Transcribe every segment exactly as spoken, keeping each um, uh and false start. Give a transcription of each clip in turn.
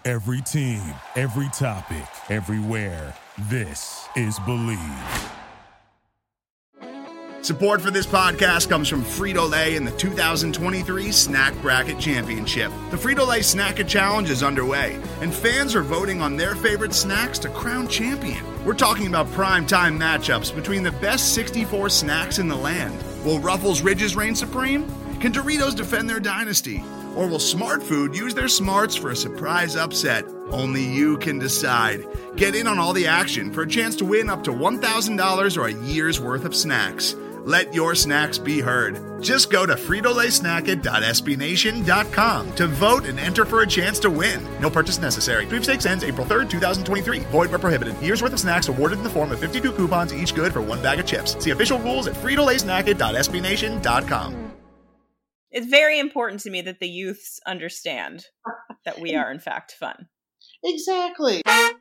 Every team, every topic, everywhere. This is Believe. Support for this podcast comes from Frito-Lay and the two thousand twenty-three Snack Bracket Championship. The Frito-Lay Snack-It Challenge is underway, and fans are voting on their favorite snacks to crown champion. We're talking about prime-time matchups between the best sixty-four snacks in the land. Will Ruffles Ridges reign supreme? Can Doritos defend their dynasty? Or will Smart Food use their smarts for a surprise upset? Only you can decide. Get in on all the action for a chance to win up to one thousand dollars or a year's worth of snacks. Let your snacks be heard. Just go to Frito Lay Snack It dot S B Nation dot com to vote and enter for a chance to win. No purchase necessary. Sweepstakes ends April third, twenty twenty-three. Void where prohibited. Year's worth of snacks awarded in the form of fifty-two coupons, each good for one bag of chips. See official rules at Frito Lay Snack It dot S B Nation dot com. It's very important to me that the youths understand that we are, in fact, fun. Exactly.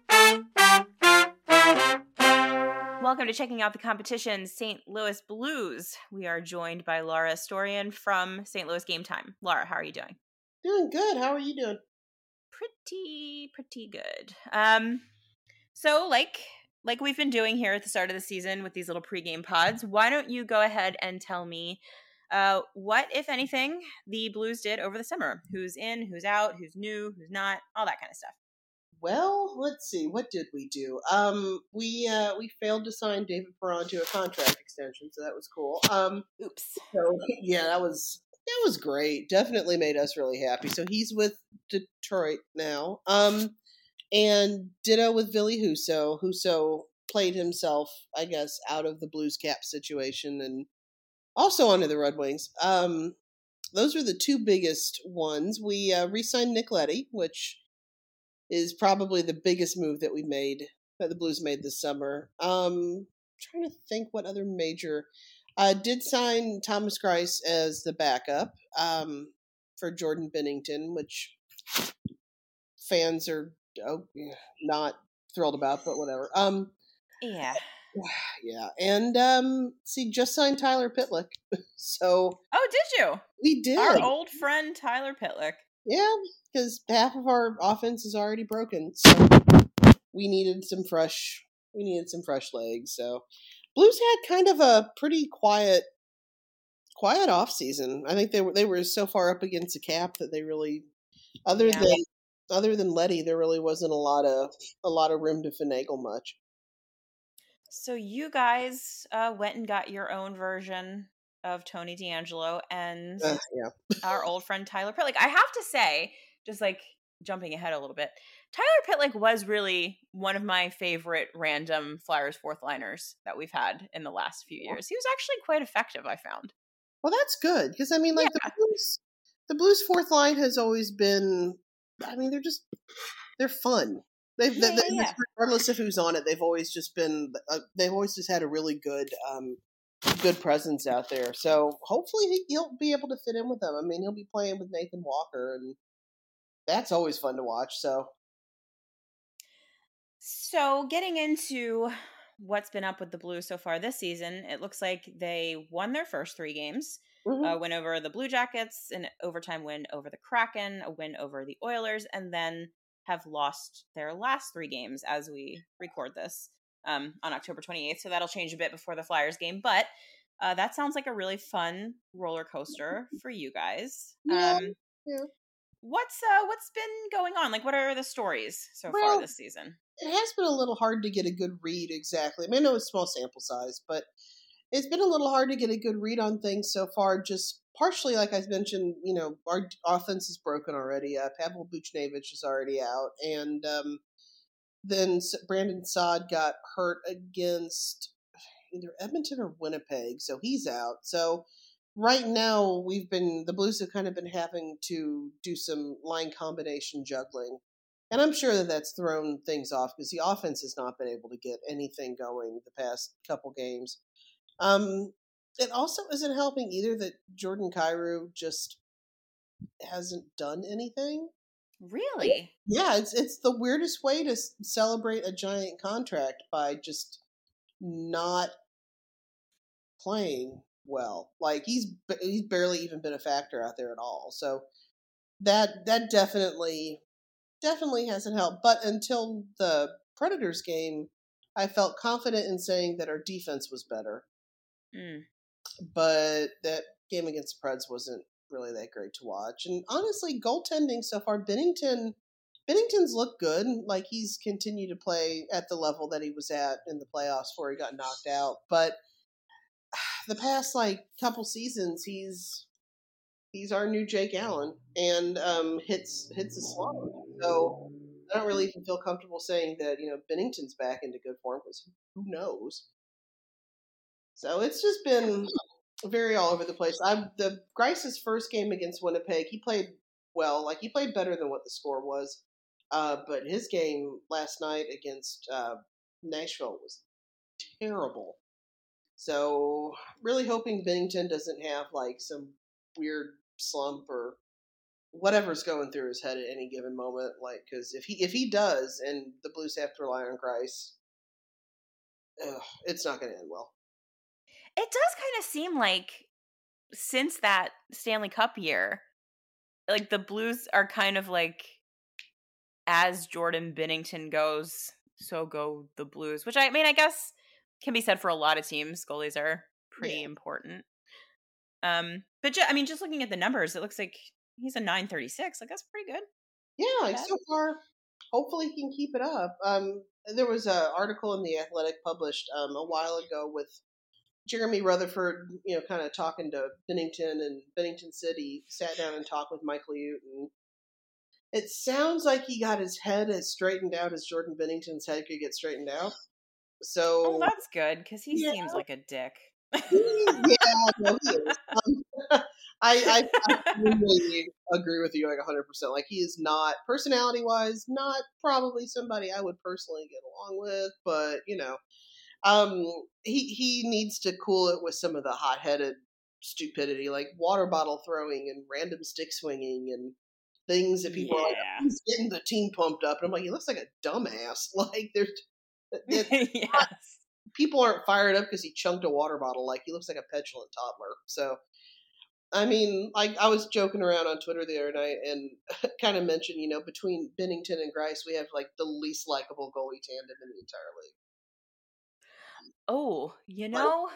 Welcome to Checking Out the Competition, Saint Louis Blues. We are joined by Laura Astorian from Saint Louis Game Time. Laura, how are you doing? Doing good. How are you doing? Pretty, pretty good. Um, so, like, like we've been doing here at the start of the season with these little pregame pods, why don't you go ahead and tell me Uh, what, if anything, the Blues did over the summer? Who's in, who's out, who's new, who's not, all that kind of stuff. Well, let's see. What did we do? Um, we uh, we failed to sign David Perron to a contract extension, so that was cool. Um, Oops. So yeah, that was that was great. Definitely made us really happy. So he's with Detroit now. Um, and ditto with Billy Husso. Husso played himself, I guess, out of the Blues cap situation and also onto the Red Wings. Um, those were the two biggest ones. We uh, re-signed Nick Leddy, which is probably the biggest move that we made, that the Blues made this summer. Um, trying to think what other major. Uh, did sign Thomas Greiss as the backup um, for Jordan Bennington, which fans are oh, not thrilled about, but whatever. Um, yeah. Yeah, and um, see, just signed Tyler Pitlick. So, oh, did you? We did. Our old friend Tyler Pitlick. Yeah, because half of our offense is already broken, so we needed some fresh. We needed some fresh legs. So, Blues had kind of a pretty quiet, quiet off season. I think they were they were so far up against the cap that they really, other yeah. than other than Leddy, there really wasn't a lot of a lot of room to finagle much. So you guys uh, went and got your own version of Tony DeAngelo and uh, yeah. our old friend Tyler Pitlick. I have to say, just like jumping ahead a little bit, Tyler Pitlick was really one of my favorite random Flyers fourth liners that we've had in the last few years. He was actually quite effective, I found. Well, that's good because I mean, like yeah. the Blues, the Blues fourth line has always been. I mean, they're just they're fun. They've, yeah, they, yeah, yeah. regardless of who's on it, they've always just been. Uh, they've always just had a really good, um, good presence out there. So hopefully he, he'll be able to fit in with them. I mean, he'll be playing with Nathan Walker, and that's always fun to watch. So, so getting into what's been up with the Blues so far this season, it looks like they won their first three games. Mm-hmm. Uh, win over the Blue Jackets, an overtime win over the Kraken, a win over the Oilers, and then have lost their last three games as we record this um, on October twenty-eighth. So that'll change a bit before the Flyers game. But uh, that sounds like a really fun roller coaster for you guys. Yeah, um, yeah. What's uh, what's been going on? Like, what are the stories so well, far this season? It has been a little hard to get a good read exactly. I mean, I know it's small sample size, but it's been a little hard to get a good read on things so far. Just partially, like I mentioned, you know, our offense is broken already. Uh, Pavel Buchnevich is already out. And um, then Brandon Saad got hurt against either Edmonton or Winnipeg, so he's out. So right now, we've been, the Blues have kind of been having to do some line combination juggling. And I'm sure that that's thrown things off because the offense has not been able to get anything going the past couple games. Um, it also isn't helping either that Jordan Kyrou just hasn't done anything. Really? Yeah, it's it's the weirdest way to celebrate a giant contract by just not playing well. Like he's he's barely even been a factor out there at all. So that that definitely definitely hasn't helped. But until the Predators game, I felt confident in saying that our defense was better. Mm. But that game against the Preds wasn't really that great to watch. And honestly, goaltending so far, Binnington, Binnington's looked good. Like, he's continued to play at the level that he was at in the playoffs before he got knocked out. But the past, like, couple seasons, he's he's our new Jake Allen, and um, hits hits a slump. So I don't really even feel comfortable saying that, you know, Binnington's back into good form, because who knows? So it's just been very all over the place. I the Grice's first game against Winnipeg, he played well. Like, he played better than what the score was. Uh, but his game last night against uh, Nashville was terrible. So really hoping Binnington doesn't have like some weird slump or whatever's going through his head at any given moment. Like, because if he if he does, and the Blues have to rely on Grice, ugh, it's not going to end well. It does kind of seem like since that Stanley Cup year, like the Blues are kind of like, as Jordan Binnington goes, so go the Blues. Which, I mean, I guess can be said for a lot of teams. Goalies are pretty yeah. important. Um, but ju- I mean, just looking at the numbers, it looks like he's a nine thirty-six. Like, that's pretty good. Yeah, like so far, hopefully he can keep it up. Um, there was an article in The Athletic published um, a while ago with Jeremy Rutherford, you know, kind of talking to Binnington, and Binnington said he sat down and talked with Mike Liut, and it sounds like he got his head as straightened out as Jordan Binnington's head could get straightened out. So, oh, that's good, because he yeah. seems like a dick. yeah, no, he is. Um, I, I, I really agree with you like one hundred percent. Like, he is not, personality-wise, not probably somebody I would personally get along with, but, you know, um, he, he needs to cool it with some of the hot-headed stupidity, like water bottle throwing and random stick swinging and things that people yeah. are like, he's getting the team pumped up. And I'm like, he looks like a dumbass. Like, there's, yes. not, people aren't fired up because he chunked a water bottle. Like, he looks like a petulant toddler. So, I mean, like, I was joking around on Twitter the other night and kind of mentioned, you know, between Binnington and Grice, we have like the least likable goalie tandem in the entire league. Oh, you know,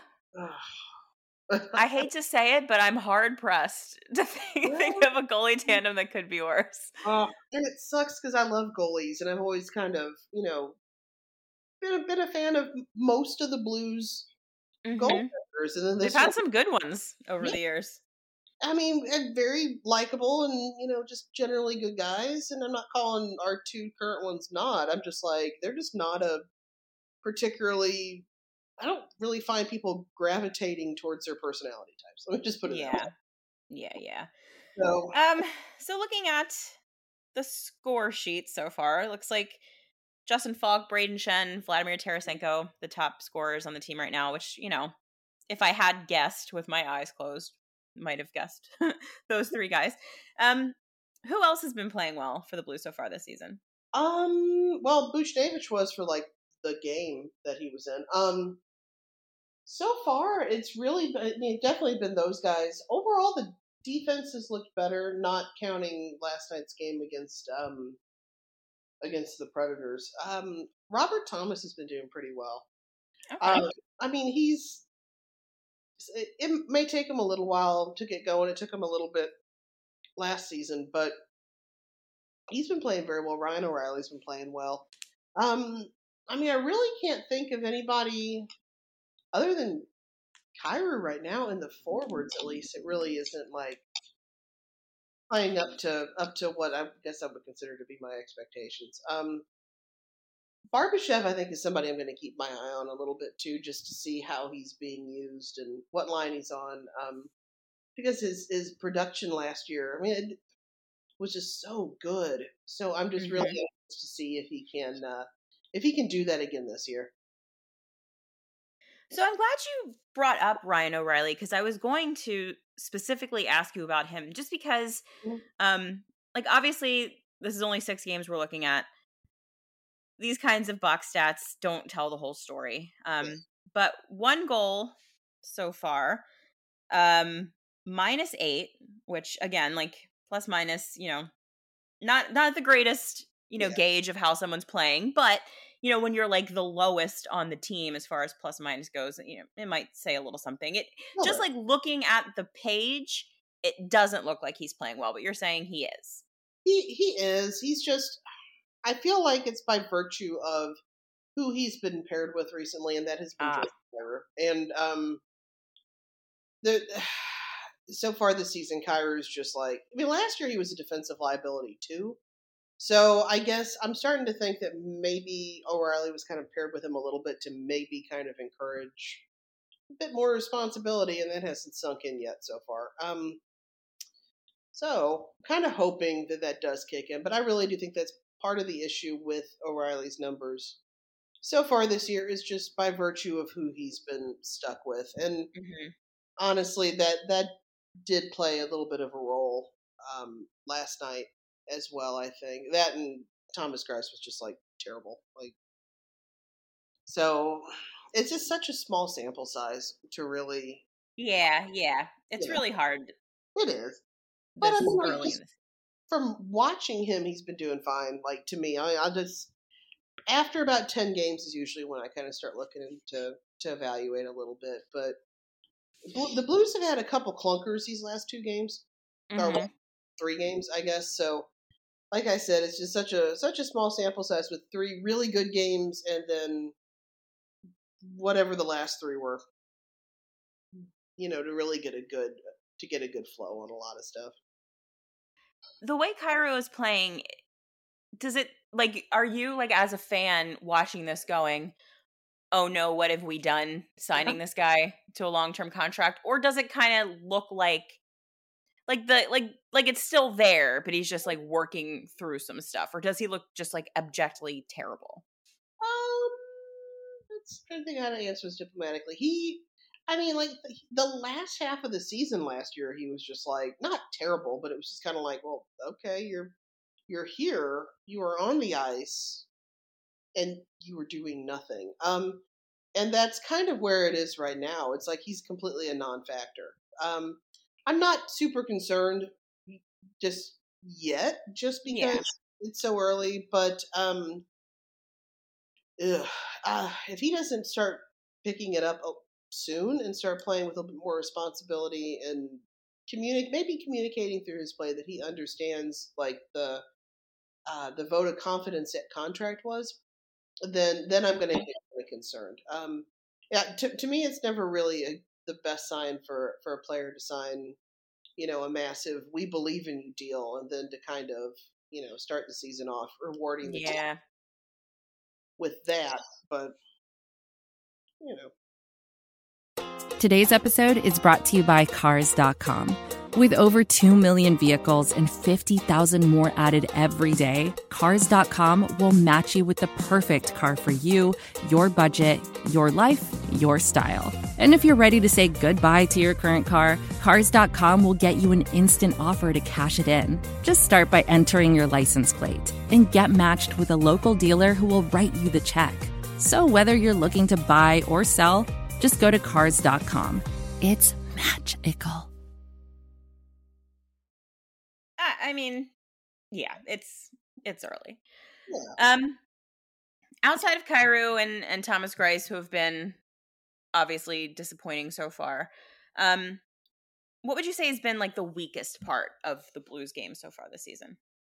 I hate to say it, but I'm hard pressed to think, think of a goalie tandem that could be worse. Uh, and it sucks because I love goalies, and I've always kind of, you know, been a, been a fan of most of the Blues mm-hmm. goaltenders. And then they've had some good ones over yeah. the years. I mean, and very likable and, you know, just generally good guys. And I'm not calling our two current ones not. I'm just like, they're just not a particularly... I don't really find people gravitating towards their personality types. Let me just put it yeah. that way. Yeah, yeah. So, um, so looking at the score sheet so far, it looks like Justin Falk, Braden Shen, Vladimir Tarasenko, the top scorers on the team right now, which, you know, if I had guessed with my eyes closed, might have guessed those three guys. Um, who else has been playing well for the Blues so far this season? Um, well, Buchnevich was for, like, the game that he was in. Um, So far, it's really been, I mean, definitely been those guys. Overall, the defense has looked better, not counting last night's game against um, against the Predators. Um, Robert Thomas has been doing pretty well. Okay. Uh, I mean, he's it, it may take him a little while to get going. It took him a little bit last season, but he's been playing very well. Ryan O'Reilly's been playing well. Um, I mean, I really can't think of anybody other than Kyrou right now in the forwards. At least it really isn't like playing up to up to what I guess I would consider to be my expectations. Um, Barbashev, I think, is somebody I'm going to keep my eye on a little bit too, just to see how he's being used and what line he's on. Um, because his his production last year, I mean, it was just so good. So I'm just mm-hmm. really anxious to see if he can uh, if he can do that again this year. So I'm glad you brought up Ryan O'Reilly, because I was going to specifically ask you about him, just because, um, like, obviously this is only six games we're looking at. These kinds of box stats don't tell the whole story. Um, but one goal so far, um, minus eight, which again, like plus minus, you know, not not the greatest you know, yeah. gauge of how someone's playing. But, you know, when you're like the lowest on the team as far as plus minus goes, you know, it might say a little something. It Well, just like looking at the page, it doesn't look like he's playing well, but you're saying he is. He he is. He's just, I feel like it's by virtue of who he's been paired with recently, and that has been Ah. Jordan Kyrou. And um, the so far this season, Kyrou's just like, I mean, last year he was a defensive liability too. So I guess I'm starting to think that maybe O'Reilly was kind of paired with him a little bit to maybe kind of encourage a bit more responsibility, and that hasn't sunk in yet so far. Um, so kind of hoping that that does kick in, but I really do think that's part of the issue with O'Reilly's numbers so far this year is just by virtue of who he's been stuck with, and Mm-hmm. honestly, that that did play a little bit of a role um, last night as well. I think that and Thomas Grice was just like terrible. Like, so it's just such a small sample size to really. Yeah, yeah. It's Yeah. really hard It is, but I this mean, like, early just in this. from watching him, he's been doing fine. Like to me, I, I just after about ten games is usually when I kind of start looking into to evaluate a little bit. But Bl- the Blues have had a couple clunkers these last two games, or Mhm. well, three games, I guess. So, like I said, it's just such a such a small sample size with three really good games, and then whatever the last three were. You know, to really get a good to get a good flow on a lot of stuff. The way Kyrou is playing, does it like are you like as a fan watching this going, "Oh no, what have we done signing this guy to a long-term contract?" Or does it kind of look like like the like like it's still there, but he's just like working through some stuff? Or does he look just like abjectly terrible? Um, let's try to think how to answer this diplomatically. He, I mean, like the, the last half of the season last year, he was just like not terrible, but it was just kind of like, well, okay, you're you're here, you are on the ice, and you were doing nothing. Um, and that's kind of where it is right now. It's like he's completely a non-factor. Um, I'm not super concerned just yet, just because Yeah. it's so early. But um, ugh, uh, if he doesn't start picking it up soon and start playing with a little bit more responsibility and communicate, maybe communicating through his play that he understands like the uh, the vote of confidence that contract was, then then I'm going to get really concerned. Um, yeah, to to me, it's never really a, the best sign for for a player to sign, you know, a massive "we believe in you" deal, and then to kind of, you know, start the season off rewarding the team Yeah. with that. But you know, Today's episode is brought to you by Cars dot com. With over two million vehicles and fifty thousand more added every day, Cars dot com will match you with the perfect car for you, your budget, your life, your style. And if you're ready to say goodbye to your current car, Cars dot com will get you an instant offer to cash it in. Just start by entering your license plate and get matched with a local dealer who will write you the check. So whether you're looking to buy or sell, just go to Cars dot com. It's magical. I, I mean, yeah, it's it's early. yeah. Um outside of Kyrou and and Thomas Grice, who have been obviously disappointing so far, um what would you say has been like the weakest part of the Blues game so far this season?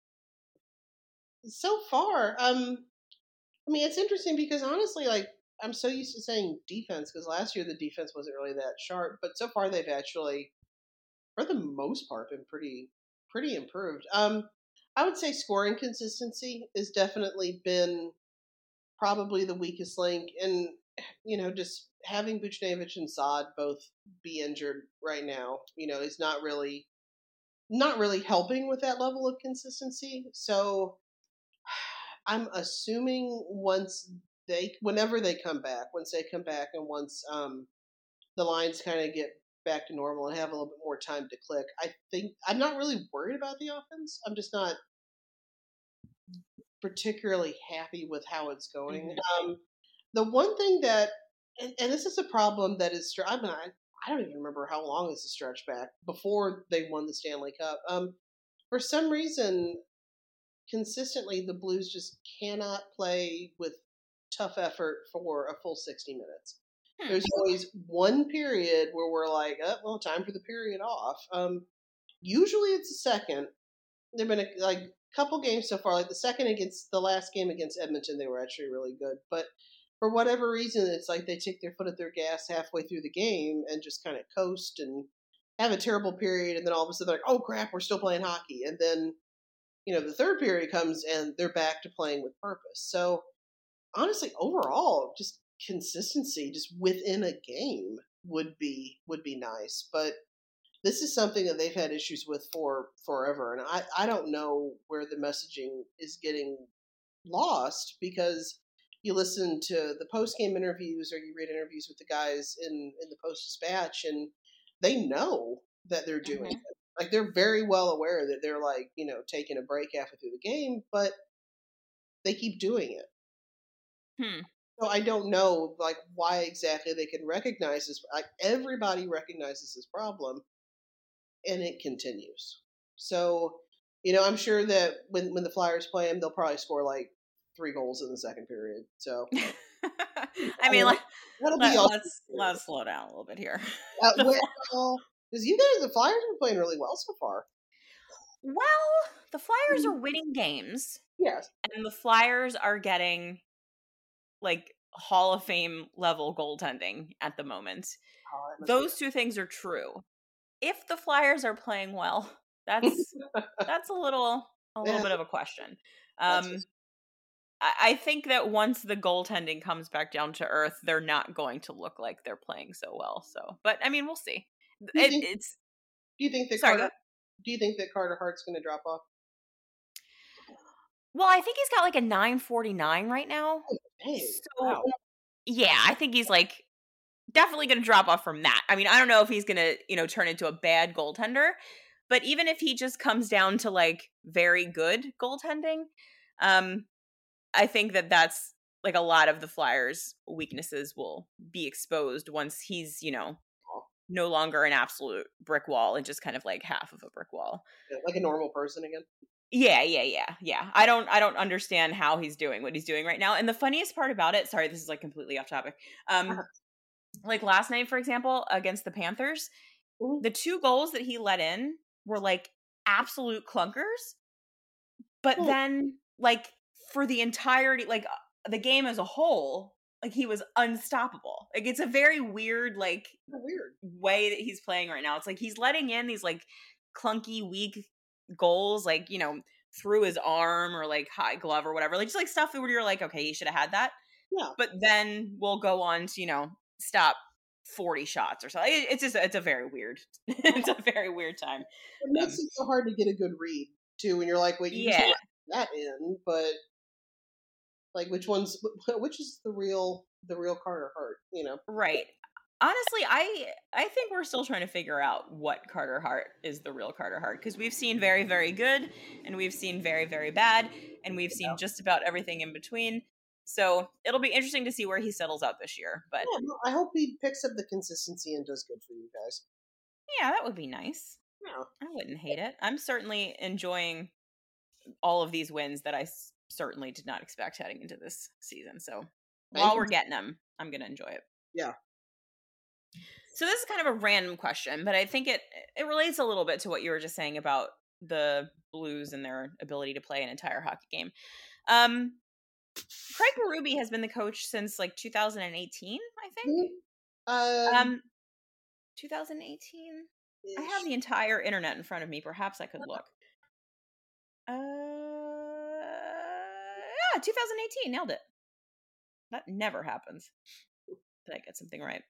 So far, um, I mean, it's interesting because honestly, like I'm so used to saying defense because last year the defense wasn't really that sharp, but so far they've actually, for the most part, been pretty pretty improved. Um, I would say scoring consistency has definitely been probably the weakest link, and you know, just having Buchnevich and Saad both be injured right now, you know, is not really not really helping with that level of consistency. So I'm assuming once they, whenever they come back, once they come back, and once um, the lines kind of get back to normal and have a little bit more time to click, I think I'm not really worried about the offense. I'm just not particularly happy with how it's going. Mhm. Um, the one thing that, and, and this is a problem that is, I mean, I, I don't even remember how long this is stretched back before they won the Stanley Cup. Um, for some reason, consistently the Blues just cannot play with tough effort for a full sixty minutes. Hmm. There's always one period where we're like, oh, well, time for the period off. Um, usually it's the second. There've been a, like a couple games so far. Like the second against the last game against Edmonton, they were actually really good. But for whatever reason, it's like they take their foot at their gas halfway through the game and just kind of coast and have a terrible period. And then all of a sudden they're like, oh, crap, we're still playing hockey. And then, you know, the third period comes and they're back to playing with purpose. So honestly, overall, just consistency just within a game would be would be nice. But this is something that they've had issues with for forever. And I, I don't know where the messaging is getting lost, because you listen to the post-game interviews or you read interviews with the guys in, in the Post-Dispatch, and they know that they're doing mm-hmm. it. Like, they're very well aware that they're, like, you know, taking a break halfway through the game, but they keep doing it. Hmm. So I don't know, like, why exactly they can recognize this. Like, everybody recognizes this problem, and it continues. So, you know, I'm sure that when, when the Flyers play them, they'll probably score, like, three goals in the second period. So, I mean, like, that'll let, be let's, let's slow down a little bit here. Uh, because you guys, the Flyers have been playing really well so far. Well, the Flyers are winning games. Yes. And the Flyers are getting, like, Hall of Fame level goaltending at the moment. Oh, those two things are true. If the Flyers are playing well, that's that's a little a little yeah. bit of a question. Um, I, I think that once the goaltending comes back down to earth, they're not going to look like they're playing so well. So, but I mean, we'll see. Do you, it, think, it's. Do you think that sorry, Carter? Do you think that Carter Hart's going to drop off? Well, I think he's got like a nine forty-nine right now. Oh, dang. So, wow. yeah, I think he's like definitely going to drop off from that. I mean, I don't know if he's going to, you know, turn into a bad goaltender, but even if he just comes down to like very good goaltending, um, I think that that's like a lot of the Flyers' weaknesses will be exposed once he's, you know, no longer an absolute brick wall and just kind of like half of a brick wall. Yeah, like a normal person again. Yeah, yeah, yeah, yeah. I don't, I don't understand how he's doing what he's doing right now. And the funniest part about it, sorry, this is like completely off topic. Um, uh-huh. Like last night, for example, against the Panthers, mm-hmm. the two goals that he let in were like absolute clunkers. But mm-hmm. then, like for the entirety, like the game as a whole, like he was unstoppable. Like it's a very weird, like weird way that he's playing right now. It's like he's letting in these like clunky, weak goals, like, you know, through his arm or like high glove or whatever, like just like stuff where you're like, okay, you should have had that. Yeah. But then we'll go on to, you know, stop forty shots or something. It's just, it's a very weird, it's a very weird time. It makes um, it so hard to get a good read too when you're like, wait, you yeah. just let that in, but like which one's, which is the real, the real Carter Hart, you know? Right. Honestly, I I think we're still trying to figure out what Carter Hart is the real Carter Hart, because we've seen very, very good, and we've seen very, very bad, and we've seen yeah. just about everything in between. So it'll be interesting to see where he settles out this year. But yeah, well, I hope he picks up the consistency and does good for you guys. Yeah, that would be nice. Yeah. I wouldn't hate it. I'm certainly enjoying all of these wins that I s- certainly did not expect heading into this season. So Thank while you. we're getting them, I'm going to enjoy it. Yeah. So this is kind of a random question, but I think it it relates a little bit to what you were just saying about the Blues and their ability to play an entire hockey game. Um, Craig Berube has been the coach since like two thousand eighteen, I think. Um, um twenty eighteen. Ish. I have the entire internet in front of me. Perhaps I could look. Uh, yeah, twenty eighteen. Nailed it. That never happens. Did I get something right?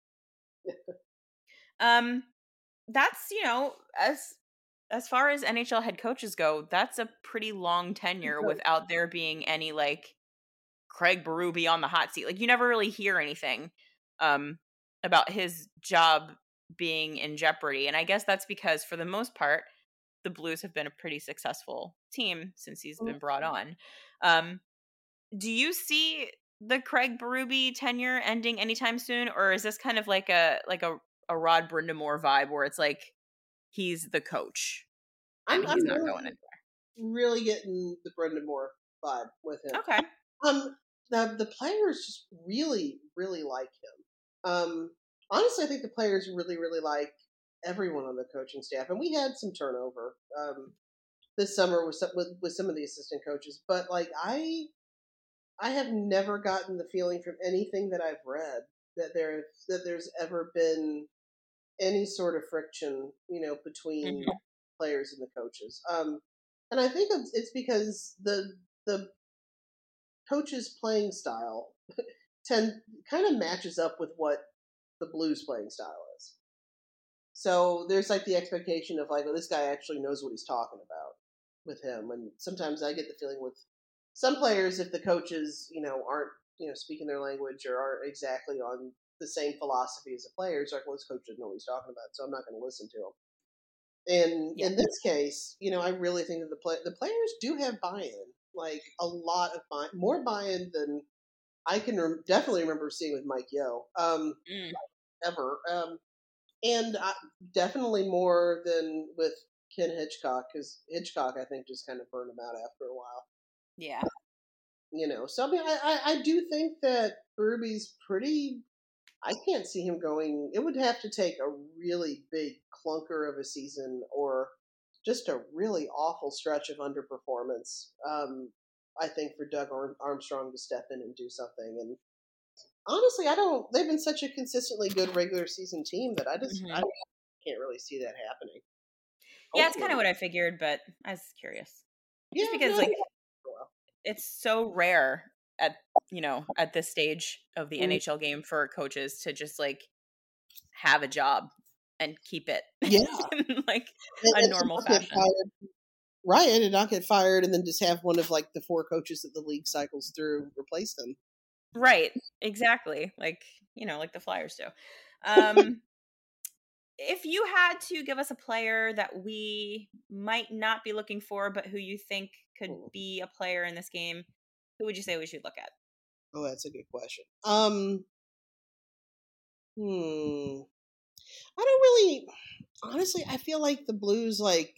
Um, that's, you know, as as far as N H L head coaches go, that's a pretty long tenure without there being any like Craig Berube on the hot seat. Like you never really hear anything um about his job being in jeopardy, and I guess that's because for the most part the Blues have been a pretty successful team since he's been brought on. Um, do you see the Craig Berube tenure ending anytime soon, or is this kind of like a like a a Rod Brindamore vibe where it's like he's the coach and I'm, he's I'm not really, going anywhere? really getting the Brendan Moore vibe with him. Okay. Um, the the players just really, really like him. Um, honestly, I think the players really, really like everyone on the coaching staff, and we had some turnover um, this summer with some, with, with some of the assistant coaches. But like I, I have never gotten the feeling from anything that I've read that there that there's ever been any sort of friction, you know, between Mhm. players and the coaches. Um, and I think it's, it's because the the coach's playing style tend kind of matches up with what the Blues playing style is. So there's like the expectation of like, well, this guy actually knows what he's talking about with him. And sometimes I get the feeling with some players, if the coaches, you know, aren't, you know, speaking their language or aren't exactly on the same philosophy as the players, like, well, this coach doesn't know what he's talking about, so I'm not going to listen to him. And Yeah. in this case, you know, I really think that the play the players do have buy-in, like a lot of buy more buy-in than I can rem- definitely remember seeing with Mike Yeo, um, Mm. ever, um, and I, definitely more than with Ken Hitchcock, because Hitchcock, I think, just kind of burned him out after a while. Yeah. You know, so I mean, I, I, I do think that Berby's pretty. I can't see him going. It would have to take a really big clunker of a season or just a really awful stretch of underperformance. Um, I think for Doug Armstrong to step in and do something. And honestly, I don't. They've been such a consistently good regular season team that I just Mhm. I can't really see that happening. Yeah, it's kind Hopefully. of what I figured, but I was curious. Yeah, Just because, no, like, well. it's so rare at, you know, at this stage of the Mm. N H L game for coaches to just, like, have a job and keep it Yeah. in, like, And, a and to normal not get fashion. fired. Right, and to not get fired and then just have one of like the four coaches that the league cycles through replace them. Right. Exactly. Like, you know, like the Flyers do. Um, if you had to give us a player that we might not be looking for, but who you think could Hmm. be a player in this game, who would you say we should look at? Oh, that's a good question. Um, hmm. I don't really, honestly, I feel like the Blues, like,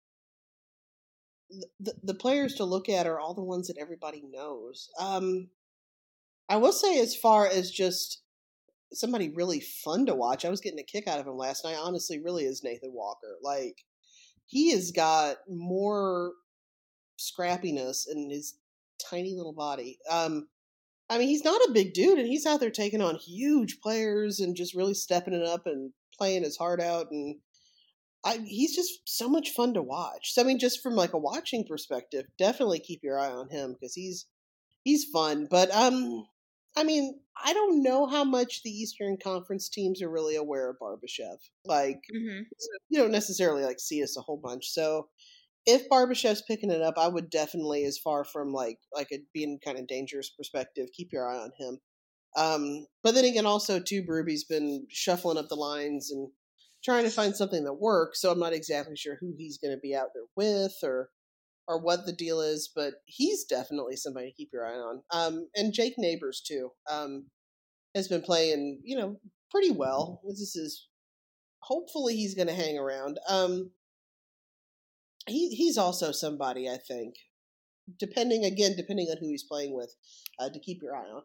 the, the, the players to look at are all the ones that everybody knows. Um, I will say, as far as just somebody really fun to watch, I was getting a kick out of him last night, honestly, really is Nathan Walker. Like, he has got more scrappiness in his tiny little body. Um, I mean, he's not a big dude, and he's out there taking on huge players and just really stepping it up and playing his heart out. And I, he's just so much fun to watch. So, I mean, just from like a watching perspective, definitely keep your eye on him because he's he's fun. But um, I mean, I don't know how much the Eastern Conference teams are really aware of Barbashev. Like, Mm-hmm. you don't necessarily like see us a whole bunch. So, if Barbashev's picking it up, I would definitely, as far from like like it being kind of dangerous perspective, keep your eye on him. Um, but then again, also too, Berby's been shuffling up the lines and trying to find something that works. So I'm not exactly sure who he's going to be out there with or or what the deal is, but he's definitely somebody to keep your eye on. Um, and Jake Neighbors too um, has been playing, you know, pretty well. This is hopefully he's going to hang around. Um, he he's also somebody I think, depending again, depending on who he's playing with, uh, to keep your eye on.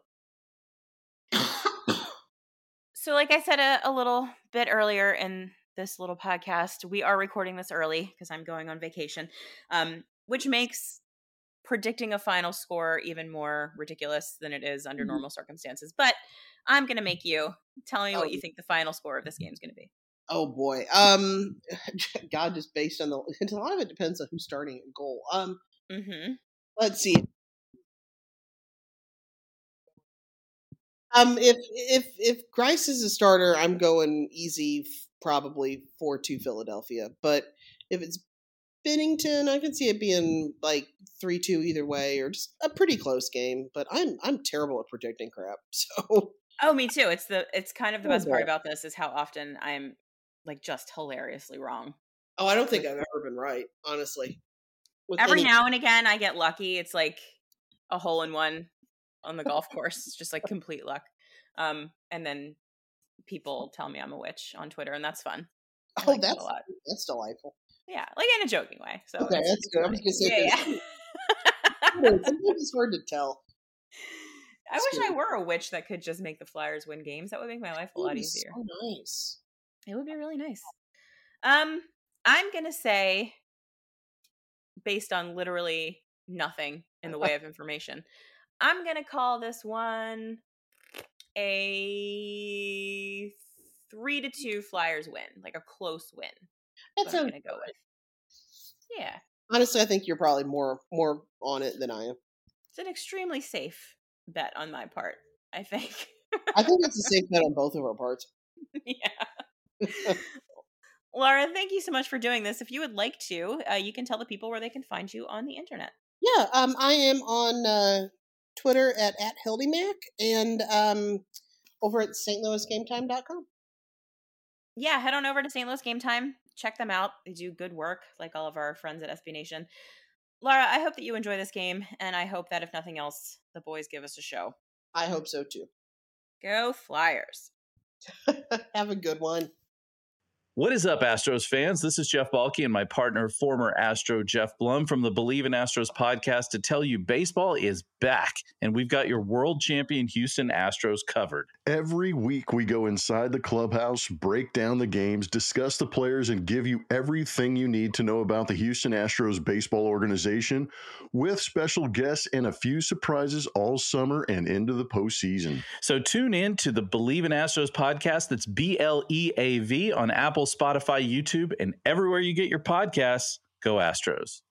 So, like I said a, a little bit earlier in this little podcast, we are recording this early because I'm going on vacation, um, which makes predicting a final score even more ridiculous than it is under Mhm. normal circumstances. But I'm going to make you tell me Oh. what you think the final score of this game is going to be. Oh boy. Um, God, just based on the, a lot of it depends on who's starting at goal. Um, Mm-hmm. let's see. Um, if if if Grice is a starter, I'm going easy, probably four two Philadelphia. But if it's Binnington, I can see it being like three two either way, or just a pretty close game. But I'm I'm terrible at predicting crap. So Oh, me too. It's the it's kind of the Oh, best part boy. about this is how often I'm like just hilariously wrong. oh, I don't think I've ever been right, honestly. With Every any- now and again, I get lucky. It's like a hole in one on the golf course. It's just like complete luck. Um, and then people tell me I'm a witch on Twitter, and that's fun. I Oh, like that that's a lot. that's delightful. Yeah, like in a joking way. So okay, it's, that's it's good. funny. I was going to say, yeah, yeah. sometimes it's hard to tell. I It's wish good. I were a witch that could just make the Flyers win games. That would make my life a It would lot be easier. so nice. It would be really nice. Um, I'm gonna say, based on literally nothing in the way of information, I'm gonna call this one a three to two Flyers win, like a close win. That's That's what I'm a, gonna go with. Yeah, honestly, I think you're probably more more on it than I am. it's an extremely safe bet on my part, I think. I think it's a safe bet on both of our parts. Yeah. Laura, thank you so much for doing this. If you would like to, uh, you can tell the people where they can find you on the internet. Yeah, um, I am on uh, Twitter at, at HildyMac and um, over at S T Louis Game Time dot com. Yeah, head on over to Saint Louis Game Time. Check them out. They do good work, like all of our friends at S B Nation. Laura, I hope that you enjoy this game, and I hope that if nothing else, the boys give us a show. I hope so too. Go Flyers. Have a good one. What is up, Astros fans? This is Jeff Balke and my partner, former Astro Jeff Blum from the Believe in Astros podcast to tell you baseball is back, and we've got your world champion Houston Astros covered. Every week we go inside the clubhouse, break down the games, discuss the players, and give you everything you need to know about the Houston Astros baseball organization with special guests and a few surprises all summer and into the postseason. So tune in to the Believe in Astros podcast. That's B L E A V on Apple, Spotify, YouTube, and everywhere you get your podcasts. Go Astros.